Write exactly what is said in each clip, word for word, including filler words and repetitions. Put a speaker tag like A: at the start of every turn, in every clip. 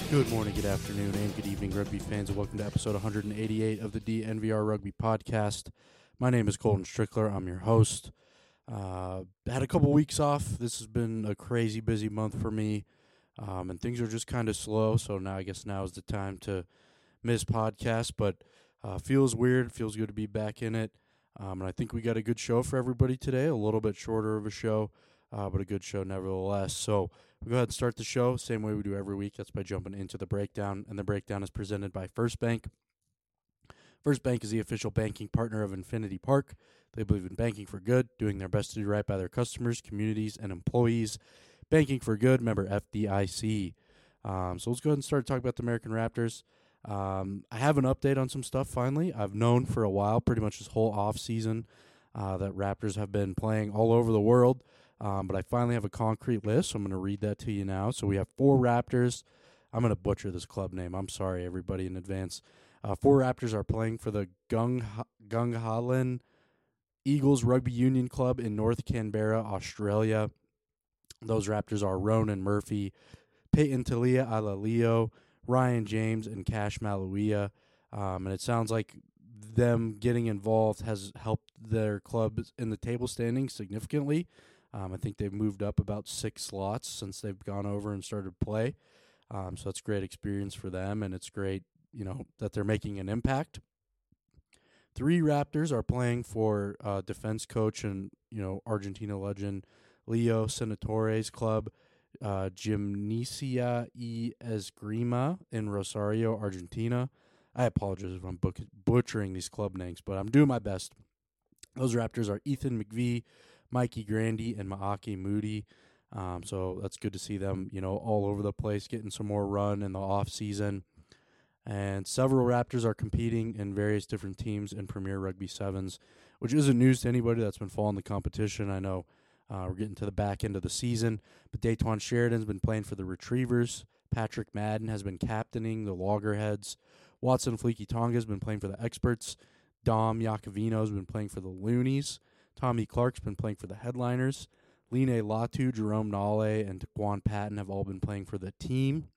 A: Good morning, good afternoon, and good evening, rugby fans, and welcome to episode one hundred eighty-eight of the D N V R Rugby Podcast. My name is Colton Strickler. I'm your host. Uh, had a couple weeks off. This has been a crazy busy month for me, um, and things are just kind of slow, so now I guess now is the time to miss podcasts, but uh, feels weird. Feels good to be back in it, um, and I think we got a good show for everybody today, a little bit shorter of a show, uh, but a good show nevertheless. So we'll go ahead and start the show, same way we do every week. That's by jumping into the breakdown, and the breakdown is presented by First Bank. First Bank is the official banking partner of Infinity Park. They believe in banking for good, doing their best to do right by their customers, communities, and employees. Banking for good, member F D I C. Um, so let's go ahead and start talking about the American Raptors. Um, I have an update on some stuff finally. I've known for a while, pretty much this whole offseason, uh, that Raptors have been playing all over the world. Um, but I finally have a concrete list, so I'm going to read that to you now. So we have four Raptors. I'm going to butcher this club name. I'm sorry, everybody, in advance. Uh, four Raptors are playing for the Gung Gungahlin Eagles Rugby Union Club in North Canberra, Australia. Those Raptors are Ronan Murphy, Peyton Talia Alalio, Ryan James, and Cash Maluia. Um, and it sounds like them getting involved has helped their club in the table standings significantly. Um, I think they've moved up about six slots since they've gone over and started play. Um, so it's a great experience for them, and it's great, you know, that they're making an impact. Three Raptors are playing for uh, defense coach and, you know, Argentina legend Leo Senatore's club, uh, Gimnasia y Esgrima in Rosario, Argentina. I apologize if I'm book- butchering these club names, but I'm doing my best. Those Raptors are Ethan McVie, Mikey Grandy, and Maaki Moody. Um, so that's good to see them, you know, all over the place, getting some more run in the off season. And several Raptors are competing in various different teams in Premier Rugby Sevens, which isn't news to anybody that's been following the competition. I know uh, we're getting to the back end of the season, but Dayton Sheridan's been playing for the Retrievers. Patrick Madden has been captaining the Loggerheads. Watson Fleeky Tonga has been playing for the Experts. Dom Iacovino has been playing for the Loonies. Tommy Clark's been playing for the Headliners. Line Latu, Jerome Nale, and Daquan Patton have all been playing for the team.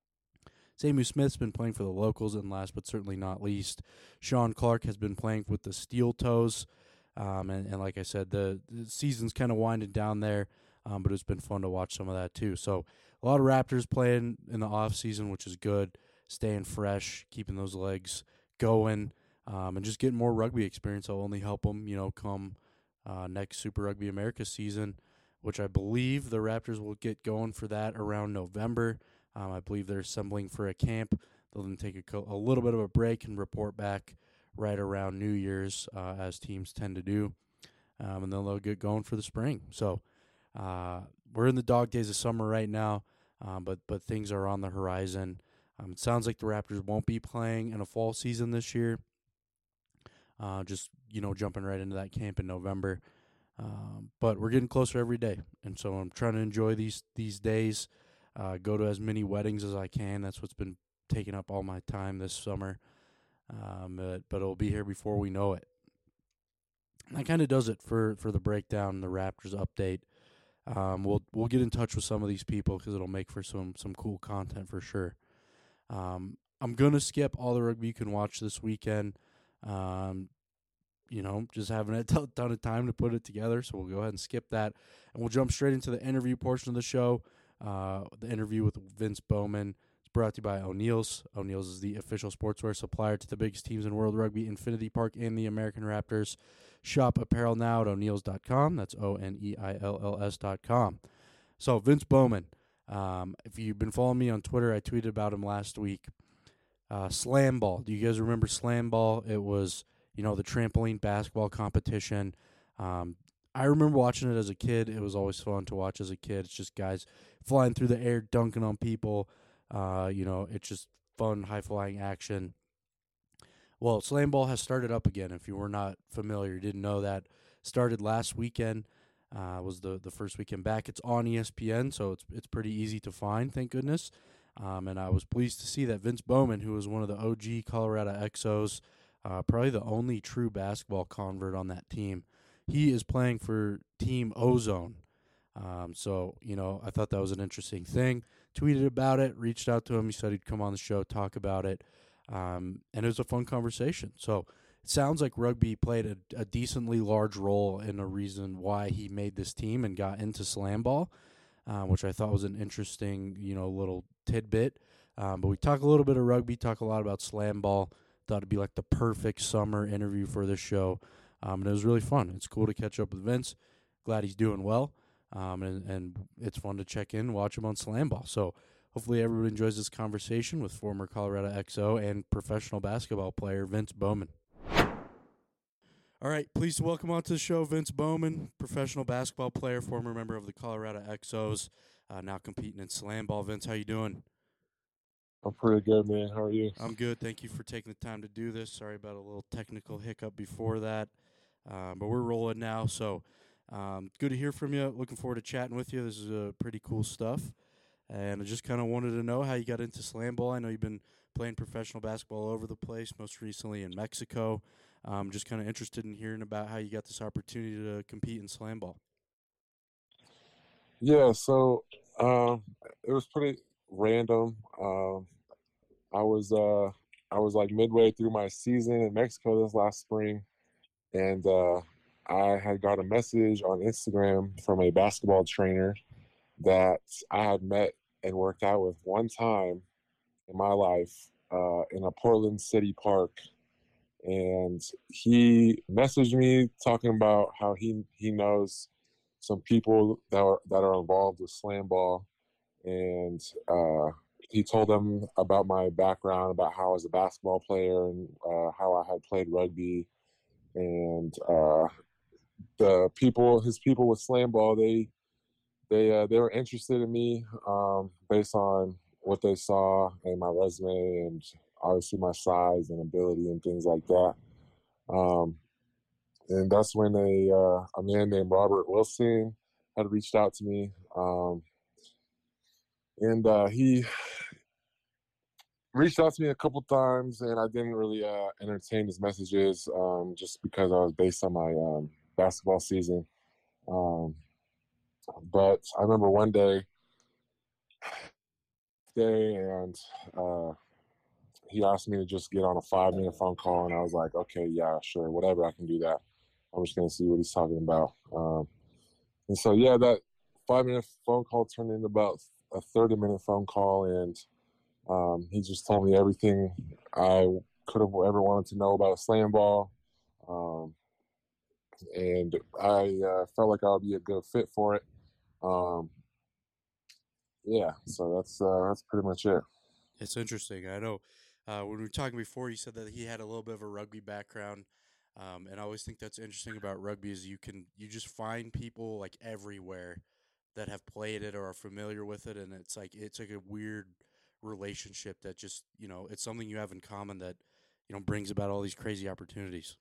A: Samu Smith's been playing for the Locals, and last but certainly not least, Sean Clark has been playing with the Steel Toes. Um, and, and like I said, the, the season's kind of winding down there, um, but it's been fun to watch some of that too. So a lot of Raptors playing in the off season, which is good, staying fresh, keeping those legs going, um, and just getting more rugby experience. Will only help them, you know, come uh, next Super Rugby America season, which I believe the Raptors will get going for that around November. Um, I believe they're assembling for a camp. They'll then take a, co- a little bit of a break and report back right around New Year's, uh, as teams tend to do. Um, and then they'll get going for the spring. So uh, we're in the dog days of summer right now, um, but but things are on the horizon. Um, it sounds like the Raptors won't be playing in a fall season this year. Uh, just, you know, jumping right into that camp in November. Um, but we're getting closer every day. And so I'm trying to enjoy these these days. Uh, go to as many weddings as I can. That's what's been taking up all my time this summer. Um, but, but it'll be here before we know it. And that kind of does it for, for the breakdown, the Raptors update. Um, we'll we'll get in touch with some of these people because it'll make for some some cool content for sure. Um, I'm gonna skip all the rugby you can watch this weekend. Um, you know, just having a t- ton of time to put it together, so we'll go ahead and skip that, and we'll jump straight into the interview portion of the show. Uh, the interview with Vince Bowman is brought to you by O'Neill's. O'Neill's is the official sportswear supplier to the biggest teams in World Rugby, Infinity Park, and the American Raptors. Shop apparel now at O'Neills dot com. That's O N E I L L S dot com. So, Vince Bowman, um, if you've been following me on Twitter, I tweeted about him last week. Uh, Slam Ball. Do you guys remember Slam Ball? It was, you know, the trampoline basketball competition. Um, I remember watching it as a kid. It was always fun to watch as a kid. It's just guys flying through the air, dunking on people. Uh, you know, it's just fun, high-flying action. Well, Slam Ball has started up again. If you were not familiar, you didn't know that. Started last weekend. Uh, was the, the first weekend back. It's on E S P N, so it's it's pretty easy to find, thank goodness. Um, and I was pleased to see that Vince Bowman, who was one of the O G Colorado X Os, uh, probably the only true basketball convert on that team, he is playing for Team Ozone. Um, so, you know, I thought that was an interesting thing. Tweeted about it, reached out to him. He said he'd come on the show, talk about it. Um, and it was a fun conversation. So it sounds like rugby played a, a decently large role in a reason why he made this team and got into slam ball, uh, which I thought was an interesting, you know, little tidbit. Um, but we talk a little bit of rugby, talk a lot about slam ball. Thought it'd be like the perfect summer interview for this show. Um, and it was really fun. It's cool to catch up with Vince. Glad he's doing well. Um, and, and it's fun to check in, watch him on Slam Ball. So hopefully everybody enjoys this conversation with former Colorado X O and professional basketball player Vince Bowman. All right, please welcome onto the show Vince Bowman, professional basketball player, former member of the Colorado X Os, uh, now competing in Slam Ball. Vince, how you doing?
B: I'm pretty good, man. How are you?
A: I'm good. Thank you for taking the time to do this. Sorry about a little technical hiccup before that, um, but we're rolling now. So um, good to hear from you. Looking forward to chatting with you. This is uh, pretty cool stuff. And I just kind of wanted to know how you got into slam ball. I know you've been playing professional basketball all over the place, most recently in Mexico. I'm just kind of interested in hearing about how you got this opportunity to compete in slam ball.
B: Yeah, so um, it was pretty random. Um, I was uh, I was like midway through my season in Mexico this last spring, and uh, I had got a message on Instagram from a basketball trainer that I had met and worked out with one time in my life uh, in a Portland City park. And he messaged me talking about how he he knows some people that are that are involved with slam ball, and uh, he told them about my background, about how I was a basketball player and uh, how I had played rugby, and uh, the people, his people with slam ball, they they uh, they were interested in me um, based on what they saw in my resume and obviously my size and ability and things like that. Um, and that's when a uh, a man named Robert Wilson had reached out to me, um, and uh, he reached out to me a couple times, and I didn't really uh, entertain his messages um, just because I was based on my um, basketball season. Um, but I remember one day, day, and uh, he asked me to just get on a five minute phone call, and I was like, okay, yeah, sure, whatever, I can do that. I'm just gonna see what he's talking about. Um, and so yeah, that five minute phone call turned into about a thirty minute phone call, and um, he just told me everything I could have ever wanted to know about slam ball. Um, and I uh, felt like I would be a good fit for it. Um, yeah, so that's uh, that's pretty much it.
A: It's interesting. I know uh, when we were talking before, you said that he had a little bit of a rugby background. Um, and I always think that's interesting about rugby is you can you just find people like everywhere that have played it or are familiar with it, and it's like it's like a weird relationship that just you know it's something you have in common that you know brings about all these crazy opportunities.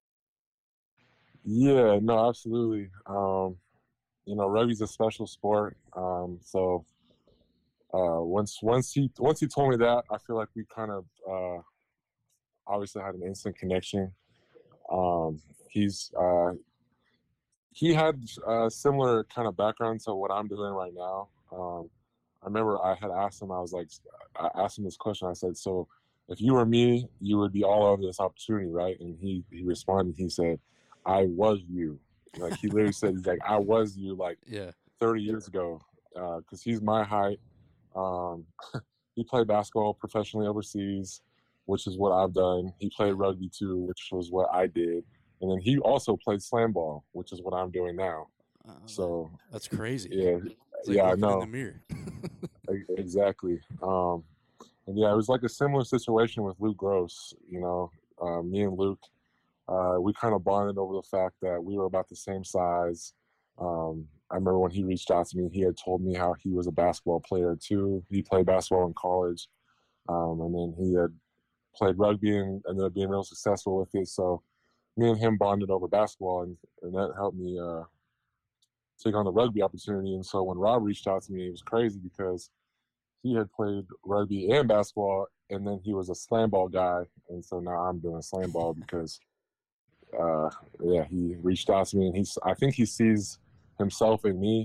B: Yeah, no, absolutely. Um, you know, rugby's a special sport. Um, so uh, once once he once he told me that, I feel like we kind of uh, obviously had an instant connection. Um, he's uh, he had a similar kind of background to what I'm doing right now. Um, I remember I had asked him, I was like, I asked him this question. I said, so if you were me, you would be all over this opportunity, right? And he, he responded, he said, I was you. Like he literally said, he's like, I was you like
A: Yeah.
B: thirty years ago. Uh, Cause he's my height. Um, he played basketball professionally overseas, which is what I've done. He played rugby too, which was what I did. And then he also played slam ball, which is what I'm doing now.
A: Uh,
B: So
A: that's crazy.
B: yeah,
A: It's like
B: yeah, I
A: looking in the
B: know.
A: mirror.
B: Exactly. Um, and yeah, it was like a similar situation with Luke Gross. You know, uh, me and Luke, uh, we kind of bonded over the fact that we were about the same size. Um, I remember when he reached out to me, he had told me how he was a basketball player too. He played basketball in college, um, and then he had played rugby and ended up being real successful with it. So me and him bonded over basketball, and, and that helped me uh, take on the rugby opportunity. And so when Rob reached out to me, it was crazy because he had played rugby and basketball, and then he was a slam ball guy, and so now I'm doing slam ball because, uh, yeah, he reached out to me, and he's I think he sees himself in me,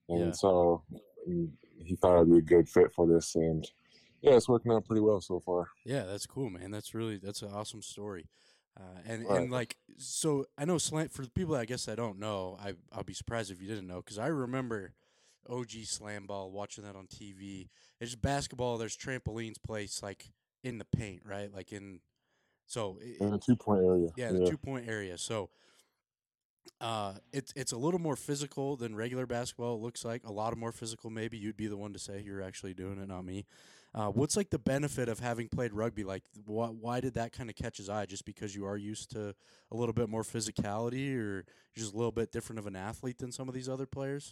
B: and
A: Yeah.
B: so mm, he thought I'd be a good fit for this, and yeah, it's working out pretty well so far.
A: Yeah, that's cool, man. That's really that's an awesome story. Uh, and
B: Right.
A: and like so, I know slam for the people that I guess I don't know. I I'll be surprised if you didn't know because I remember O G slam ball watching that on T V. It's just basketball. There's trampolines placed like in the paint, right? Like in so it,
B: In
A: it,
B: the two point area.
A: yeah, the
B: Yeah.
A: two point area. So uh, it's it's a little more physical than regular basketball. It looks like a lot of more physical. Maybe you'd be the one to say you're actually doing it, not me. Uh, what's like the benefit of having played rugby? Like, why why did that kind of catch his eye? Just because you are used to a little bit more physicality, or you're just a little bit different of an athlete than some of these other players?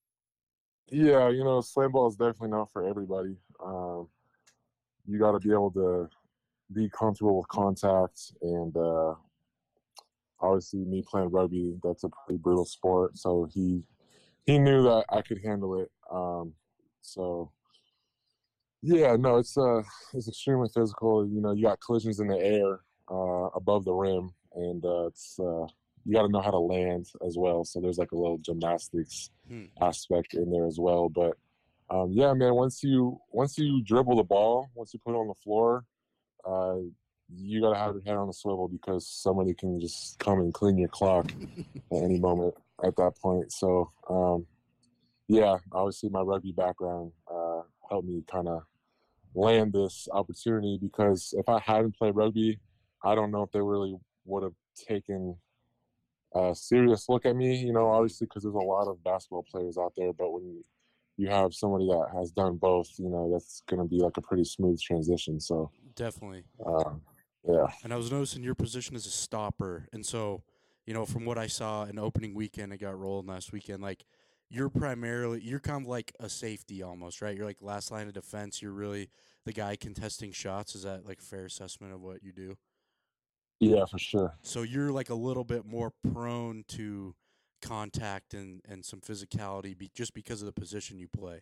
B: Yeah, you know, slam ball is definitely not for everybody. Um, you got to be able to be comfortable with contact, and uh, obviously, me playing rugby, that's a pretty brutal sport. So he he knew that I could handle it. Um, so yeah, no, it's uh, it's extremely physical. You know, you got collisions in the air uh, above the rim, and uh, it's uh, you got to know how to land as well. So there's like a little gymnastics
A: Hmm.
B: aspect in there as well. But um, yeah, man, once you once you dribble the ball, once you put it on the floor, uh, you got to have your head on the swivel because somebody can just come and clean your clock at any moment at that point. So um, yeah, obviously my rugby background uh, helped me kind of land this opportunity because if I hadn't played rugby, I don't know if they really would have taken a serious look at me, you know,
A: Mhm.
B: obviously because there's a lot of basketball players out there, but when you have somebody that has done both, you know, that's going to be like a pretty smooth transition. So,
A: Definitely.
B: um, yeah.
A: And I was noticing your position as a stopper, and so you know from what I saw in opening weekend, it got rolling last weekend. Like you're primarily you're kind of like a safety almost, right? You're like last line of defense. You're really the guy contesting shots. Is that like a fair assessment of what you do?
B: Yeah, for sure.
A: So you're like a little bit more prone to contact and and some physicality be, just because of the position you play.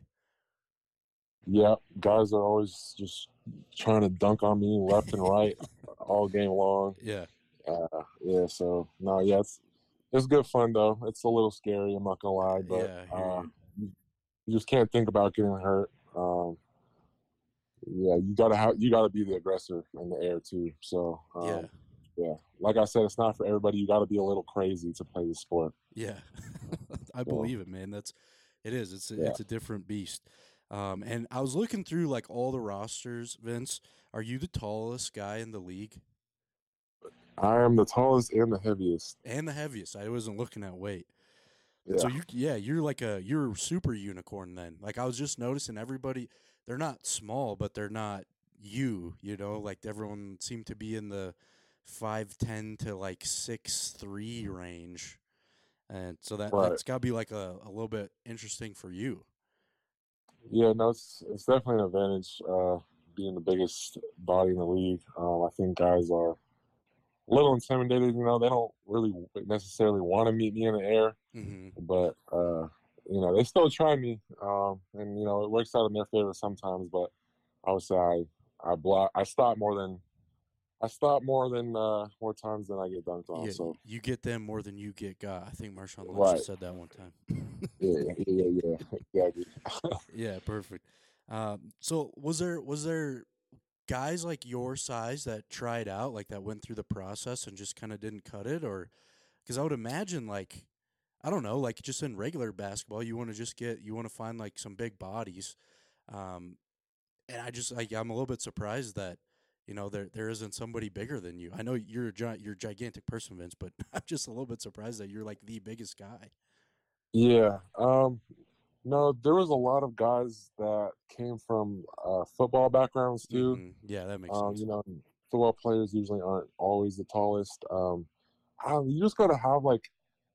B: Yeah, guys are always just trying to dunk on me left and right all game long.
A: Yeah,
B: Uh, yeah, so no, yeah, it's it's good fun though. It's a little scary, I'm not gonna lie, but
A: yeah, I hear
B: uh,
A: you.
B: you, you just can't think about getting hurt. Um, yeah, you gotta have you gotta be the aggressor in the air too. So
A: Yeah,
B: um, yeah, like I said, it's not for everybody. You gotta be a little crazy to play the sport.
A: yeah. I
B: So
A: believe it, man. That's it is. It's a,
B: yeah,
A: it's a different beast. Um, and I was looking through like all the rosters. Vince, are you the tallest guy in the league
B: I am the tallest and the heaviest.
A: and the heaviest? I wasn't looking at weight. So
B: Yeah,
A: you, yeah, you're like a you're a super unicorn then. Like I was just noticing everybody, they're not small, but they're not you. You know, like everyone seemed to be in the five ten to like six three range, and so that
B: right.
A: that's got to be like a, a little bit interesting for you.
B: Yeah, no, it's it's definitely an advantage uh, being the biggest body in the league. Um, I think guys are a little intimidated. You know, they don't really necessarily want to meet me in the air,
A: Mm-hmm.
B: but uh, you know, they still try me, um, and you know, it works out in their favor sometimes. But I would say I I block I stop more than I stop more than uh, more times than I get dunked on.
A: Yeah,
B: So
A: you get them more than you get got. I think Marshawn Lynch
B: right,
A: has said that one time.
B: yeah, yeah, yeah, yeah, exactly.
A: Yeah, perfect. Um, so was there was there guys like your size that tried out, like that went through the process and just kind of didn't cut it, or because I would imagine like I don't know, like just in regular basketball, you want to just get you want to find like some big bodies, um, and I just like I'm a little bit surprised that you know there there isn't somebody bigger than you. I know you're a gi- you're a gigantic person, Vince, but I'm just a little bit surprised that you're like the biggest guy.
B: Yeah. Um, no, there was a lot of guys that came from uh, football backgrounds too.
A: Mm-hmm. Yeah, that makes
B: Um,
A: sense.
B: you know, football players usually aren't always the tallest. Um, I don't- you just got to have like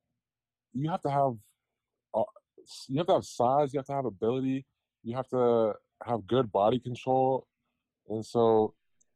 B: you have to have uh, you have to have size, you have to have ability, you have to have good body control, and so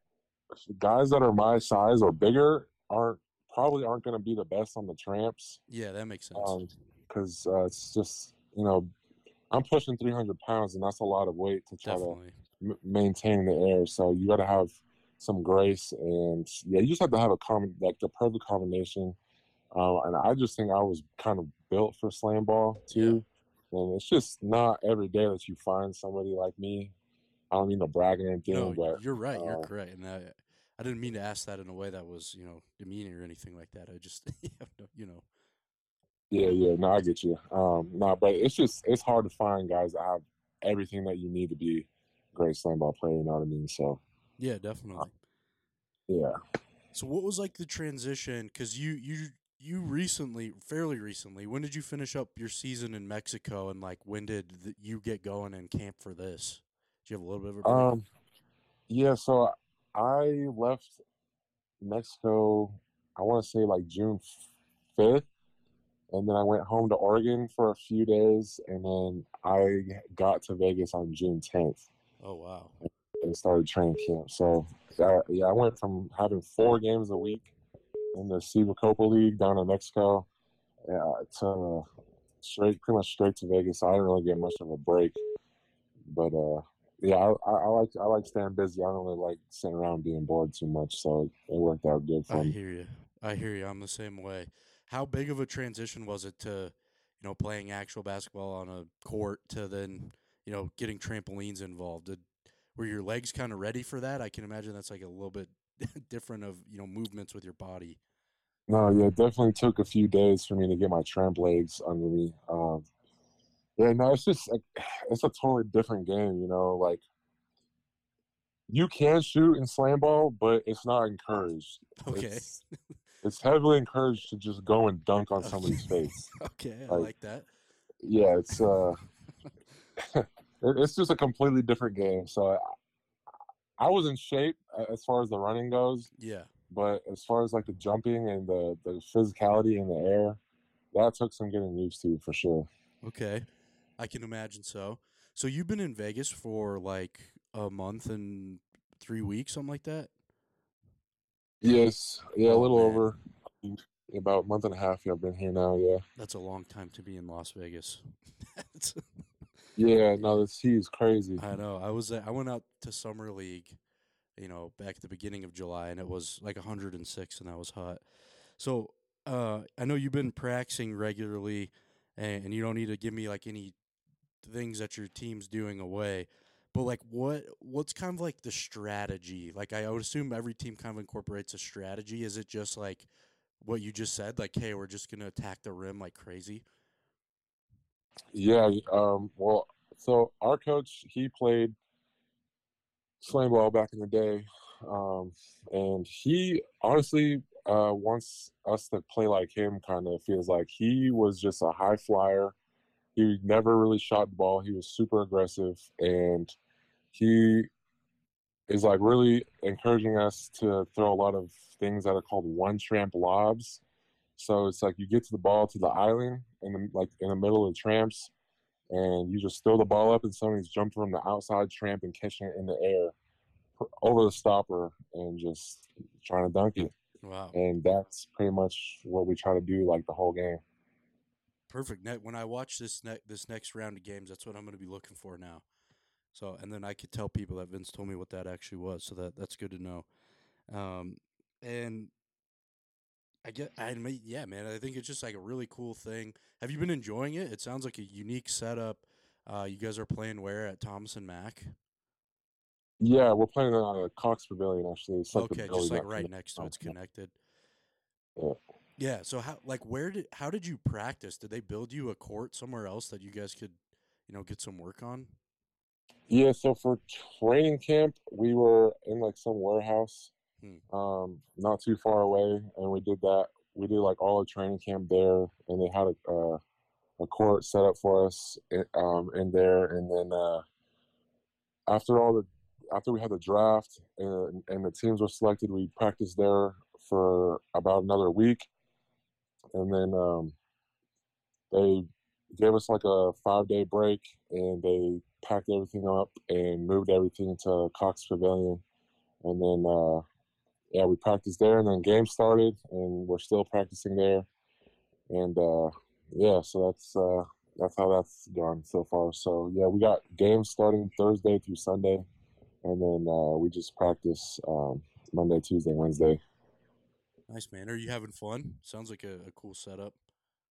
B: guys that are my size or bigger aren't probably aren't going to be the best on the tramps,
A: Yeah, that makes sense.
B: um, because uh, it's just you know I'm pushing three hundred pounds, and that's a lot of weight to try to
A: Definitely.
B: m- maintain the air. So you got to have some grace, and yeah, you just have to have a common, like the perfect combination. Uh, and I just think I was kind of built for slam ball
A: Yeah.
B: too. And it's just not every day that you find somebody like me. I don't mean to brag or
A: No,
B: anything, but
A: you're right. You're
B: uh,
A: correct. And I, I didn't mean to ask that in a way that was, you know, demeaning or anything like that. I just, you know,
B: yeah, yeah, no, I get you. Um, no, but it's just it's hard to find guys that have everything that you need to be a great slam ball player. You know what I mean? So
A: yeah,
B: uh,
A: definitely.
B: yeah.
A: So what was like the transition? Because you you you recently, fairly recently, when did you finish up your season in Mexico, and like when did th- you get going in camp for this? Did you have a little bit of a break?
B: Um, yeah, so I left Mexico, I want to say like June fifth, and then I went home to Oregon for a few days, and then I got to Vegas on June tenth
A: Oh wow.
B: and started training camp. So, uh, yeah, I went from having four games a week in the Ciba Copa League down in Mexico uh, to straight, pretty much straight to Vegas. So I didn't really get much of a break, but uh, yeah, I, I, I like I like staying busy. I don't really like sitting around being bored too much, so it worked out good
A: I
B: for me.
A: hear you. I hear you. I'm the same way. How big of a transition was it to, you know, playing actual basketball on a court to then, you know, getting trampolines involved? Did were your legs kind of ready for that? I can imagine that's like a little bit different of, you know, movements with your body.
B: No, yeah, it definitely took a few days for me to get my tramp legs under me. Um, yeah, no, it's just like, it's a totally different game, you know. Like you can shoot in slam ball, but it's not encouraged.
A: Okay.
B: It's it's heavily encouraged to just go and dunk on
A: Okay.
B: somebody's face.
A: Okay, I
B: Like,
A: like that.
B: yeah, it's uh, it, it's just a completely different game. So I, I was in shape uh, as far as the running goes,
A: Yeah.
B: but as far as like the jumping and the the physicality in the air, that took some getting used to for sure.
A: Okay. I can imagine so. So you've been in Vegas for like a month and three weeks, something like that?
B: Yes, yeah, a
A: Oh
B: little
A: man,
B: over about a month and a half. Yeah, I've been here now. Yeah,
A: that's a long time to be in Las Vegas. That's
B: yeah.
A: yeah.
B: No, the sea is crazy.
A: I know. I was I went out to summer league, you know, back at the beginning of July, and it was like one hundred six, and that was hot. So, uh, I know you've been practicing regularly, and, and you don't need to give me like any things that your team's doing away. But like, what what's kind of like the strategy? Like, I would assume every team kind of incorporates a strategy. Is it just like what you just said? Like, hey, we're just gonna attack the rim like crazy.
B: Yeah. Um. Well, so our coach he played slam ball back in the day, um, and he honestly uh, wants us to play like him. Kind of feels like he was just a high flyer. He never really shot the ball. He was super aggressive, and he is like really encouraging us to throw a lot of things that are called one tramp lobs. So it's like you get to the ball to the island in the like in the middle of the tramps, and you just throw the ball up, and somebody's jumping from the outside tramp and catching it in the air over the stopper and just trying to dunk it.
A: Wow.
B: And that's pretty much what we try to do like the whole game.
A: Perfect. Ne- When I watch this ne- this next round of games, that's what I'm going to be looking for now. So, and then I could tell people that Vince told me what that actually was. So that that's good to know. Um, and I get, I mean, yeah, man, I think it's just like a really cool thing. Have you been enjoying it? It sounds like a unique setup. Uh, you guys are playing where at Thomas and Mack?
B: Yeah, we're playing on a Cox Pavilion actually. It's like the
A: Okay, just
B: building
A: like
B: that
A: right
B: connects.
A: next to it's connected.
B: Yeah.
A: Yeah. So how, like, where did, how did you practice? Did they build you a court somewhere else that you guys could, you know, get some work on?
B: Yeah, so for training camp, we were in like some warehouse,
A: Hmm.
B: um, not too far away, and we did that. We did like all the training camp there, and they had a uh, a court set up for us um, in there. And then uh, after all the after we had the draft and, and the teams were selected, we practiced there for about another week, and then um, they gave us like a five day break, and they packed everything up and moved everything to Cox Pavilion, and then uh, yeah, we practiced there, and then games started, and we're still practicing there, and uh, yeah, so that's uh, that's how that's gone so far. So yeah, we got games starting Thursday through Sunday, and then uh, we just practice um, Monday, Tuesday, Wednesday.
A: Nice, man. Are you having fun? Sounds like a, a cool setup.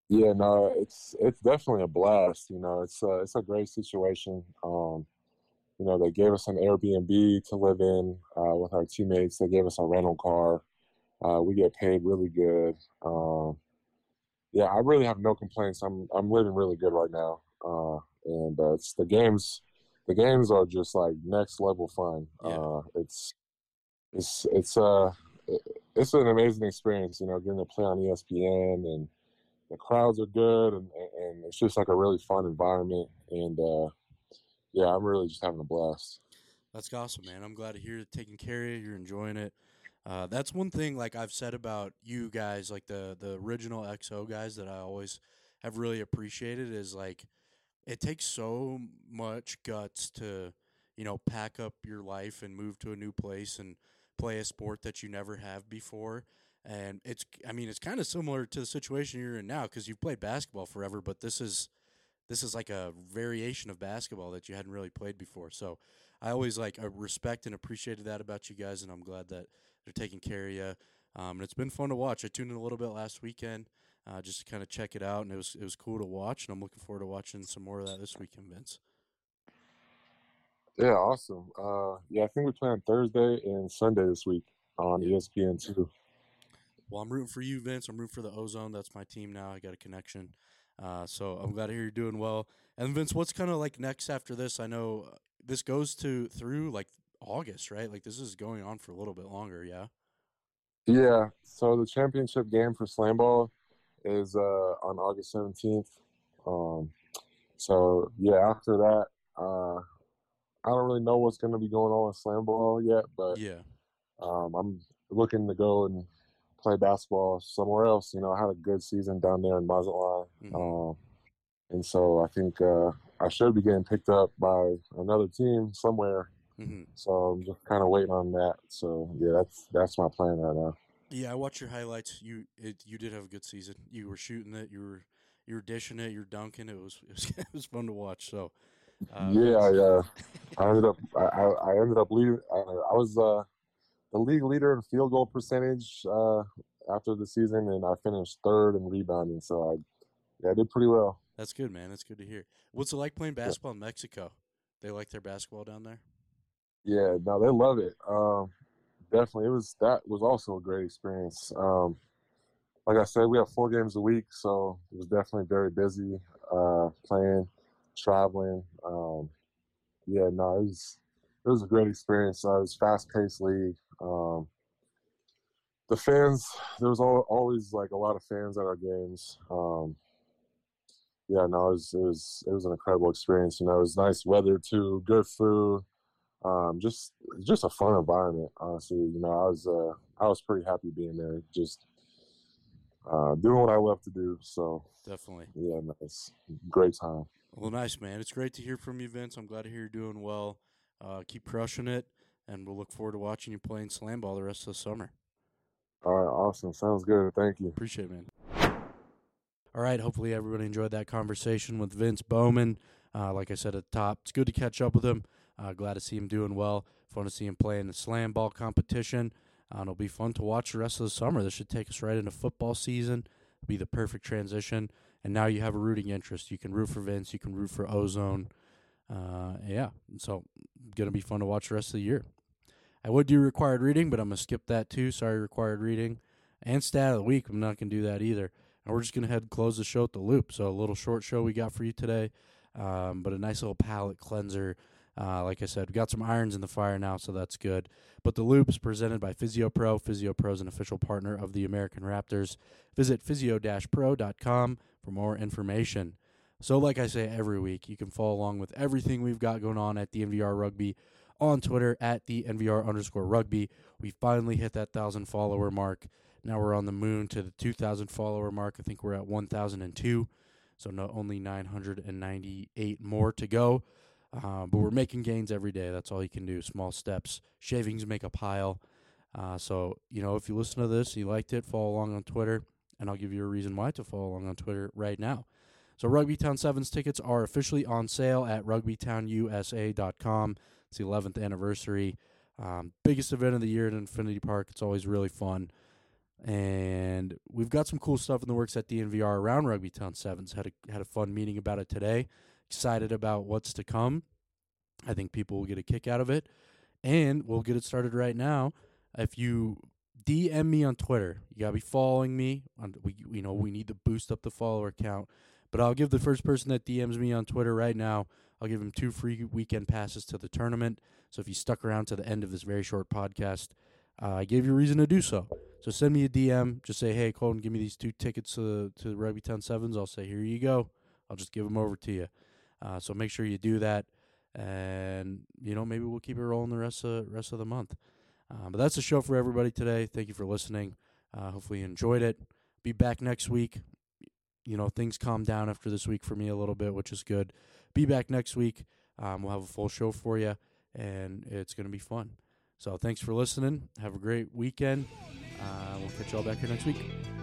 B: Yeah, no, it's it's definitely a blast. You know, it's a, it's a great situation. Um, you know, they gave us an Airbnb to live in uh, with our teammates. They gave us a rental car. Uh, we get paid really good. Um, yeah, I really have no complaints. I'm I'm living really good right now. Uh, and uh, it's the games. The games are just like next level fun.
A: Yeah.
B: Uh, it's it's it's uh it's an amazing experience. You know, getting to play on E S P N, and the crowds are good, and, and it's just like a really fun environment. And uh, yeah, I'm really just having a blast.
A: That's awesome, man. I'm glad to hear it taking care of you. You're enjoying it. Uh, that's one thing, like I've said about you guys, like the the original X O guys, that I always have really appreciated is like it takes so much guts to, you know, pack up your life and move to a new place and play a sport that you never have before. And it's, I mean, it's kind of similar to the situation you're in now because you've played basketball forever, but this is this is like a variation of basketball that you hadn't really played before. So I always like uh, respect and appreciated that about you guys, and I'm glad that they're taking care of you. Um, and it's been fun to watch. I tuned in a little bit last weekend uh, just to kind of check it out, and it was it was cool to watch. And I'm looking forward to watching some more of that this weekend, Vince.
B: Yeah, awesome. Uh, yeah, I think we play on Thursday and Sunday this week on
A: Yeah.
B: E S P N two.
A: Well, I'm rooting for you, Vince. I'm rooting for the Ozone. That's my team now. I got a connection. Uh, so I'm glad to hear you're doing well. And Vince, what's kind of like next after this? I know uh, this goes to through like August, right? Like this is going on for a little bit longer. Yeah.
B: Yeah, so the championship game for slam ball is uh, on August seventeenth. Um, so yeah, after that, uh, I don't really know what's going to be going on with slam ball yet, but
A: Yeah.
B: um, I'm looking to go and play basketball somewhere else. You know, I had a good season down there in Mazatlan,
A: Mm-hmm.
B: um, and so I think uh, I should be getting picked up by another team somewhere.
A: Mm-hmm.
B: So I'm just kind of waiting on that. So yeah, that's that's my plan right now.
A: Yeah, I watched your highlights. You it, you did have a good season. You were shooting it. You were you were dishing it. You were dunking. It was it was, it was fun to watch. So, uh,
B: Yeah, I
A: Vince.
B: uh, I ended up I, I I ended up leading. I, I was uh, the league leader in field goal percentage uh, after the season, and I finished third in rebounding. So I yeah, I did pretty well.
A: That's good, man. That's good to hear. What's it like playing basketball in Mexico? They like their basketball down there.
B: Yeah, no, they love it. Um, definitely, it was that was also a great experience. Um, like I said, we have four games a week, so it was definitely very busy. Uh, playing, traveling. Um, yeah, no, it was it was a great experience. Uh, it was fast paced league. Um, the fans, there was al- always like a lot of fans at our games. Um, yeah, no, it was it was it was an incredible experience. You know, it was nice weather too, good food. Um, just just a fun environment, honestly. You know, I was uh, I was pretty happy being there, just uh, doing what I love to do. So
A: Definitely.
B: yeah, nice, great time.
A: Well, nice, man. It's great to hear from you, Vince. I'm glad to hear you're doing well. Uh, keep crushing it, and we'll look forward to watching you playing slam ball the rest of the summer.
B: All right, awesome, sounds good. Thank you.
A: Appreciate it, man. All right. Hopefully, everybody enjoyed that conversation with Vince Bowman. Uh, like I said at the top, it's good to catch up with him. Uh, glad to see him doing well. Fun to see him play in the slam ball competition. Uh, it'll be fun to watch the rest of the summer. This should take us right into football season. It'll be the perfect transition. And now you have a rooting interest. You can root for Vince. You can root for Ozone. Uh, yeah. So, going to be fun to watch the rest of the year. I would do required reading, but I'm going to skip that too. Sorry, required reading. And stat of the week, I'm not going to do that either. And we're just going to head and close the show at the loop. So a little short show we got for you today, um, but a nice little palate cleanser. Uh, like I said, we got some irons in the fire now, so that's good. But the loop is presented by PhysioPro. PhysioPro is an official partner of the American Raptors. Visit physio dash pro dot com for more information. So like I say every week, you can follow along with everything we've got going on at the N V R Rugby on Twitter at the N V R underscore rugby. We finally hit that one thousand follower mark. Now we're on the moon to the two thousand follower mark. I think we're at one thousand two, so no, only nine hundred ninety-eight more to go. Uh, but we're making gains every day. That's all you can do. Small steps. Shavings make a pile. Uh, so, you know, if you listen to this, you liked it, follow along on Twitter, and I'll give you a reason why to follow along on Twitter right now. So Rugby Town Sevens tickets are officially on sale at rugby town u s a dot com. It's the eleventh anniversary. Um, biggest event of the year at Infinity Park. It's always really fun. And we've got some cool stuff in the works at D N V R around Rugby Town Sevens. Had a had a fun meeting about it today. Excited about what's to come. I think people will get a kick out of it. And we'll get it started right now. If you D M me on Twitter, you gotta be following me. On we you know we need to boost up the follower count. But I'll give the first person that D Ms me on Twitter right now, I'll give him two free weekend passes to the tournament. So if you stuck around to the end of this very short podcast, uh, I gave you a reason to do so. So send me a D M. Just say, hey, Colton, give me these two tickets to, to the Rugby Town Sevens. I'll say, here you go. I'll just give them over to you. Uh, so make sure you do that. And, you know, maybe we'll keep it rolling the rest of, rest of the month. Uh, but that's the show for everybody today. Thank you for listening. Uh, hopefully you enjoyed it. Be back next week. You know, things calm down after this week for me a little bit, which is good. Be back next week. Um, we'll have a full show for you, and it's going to be fun. So thanks for listening. Have a great weekend. Uh, we'll catch y'all back here next week.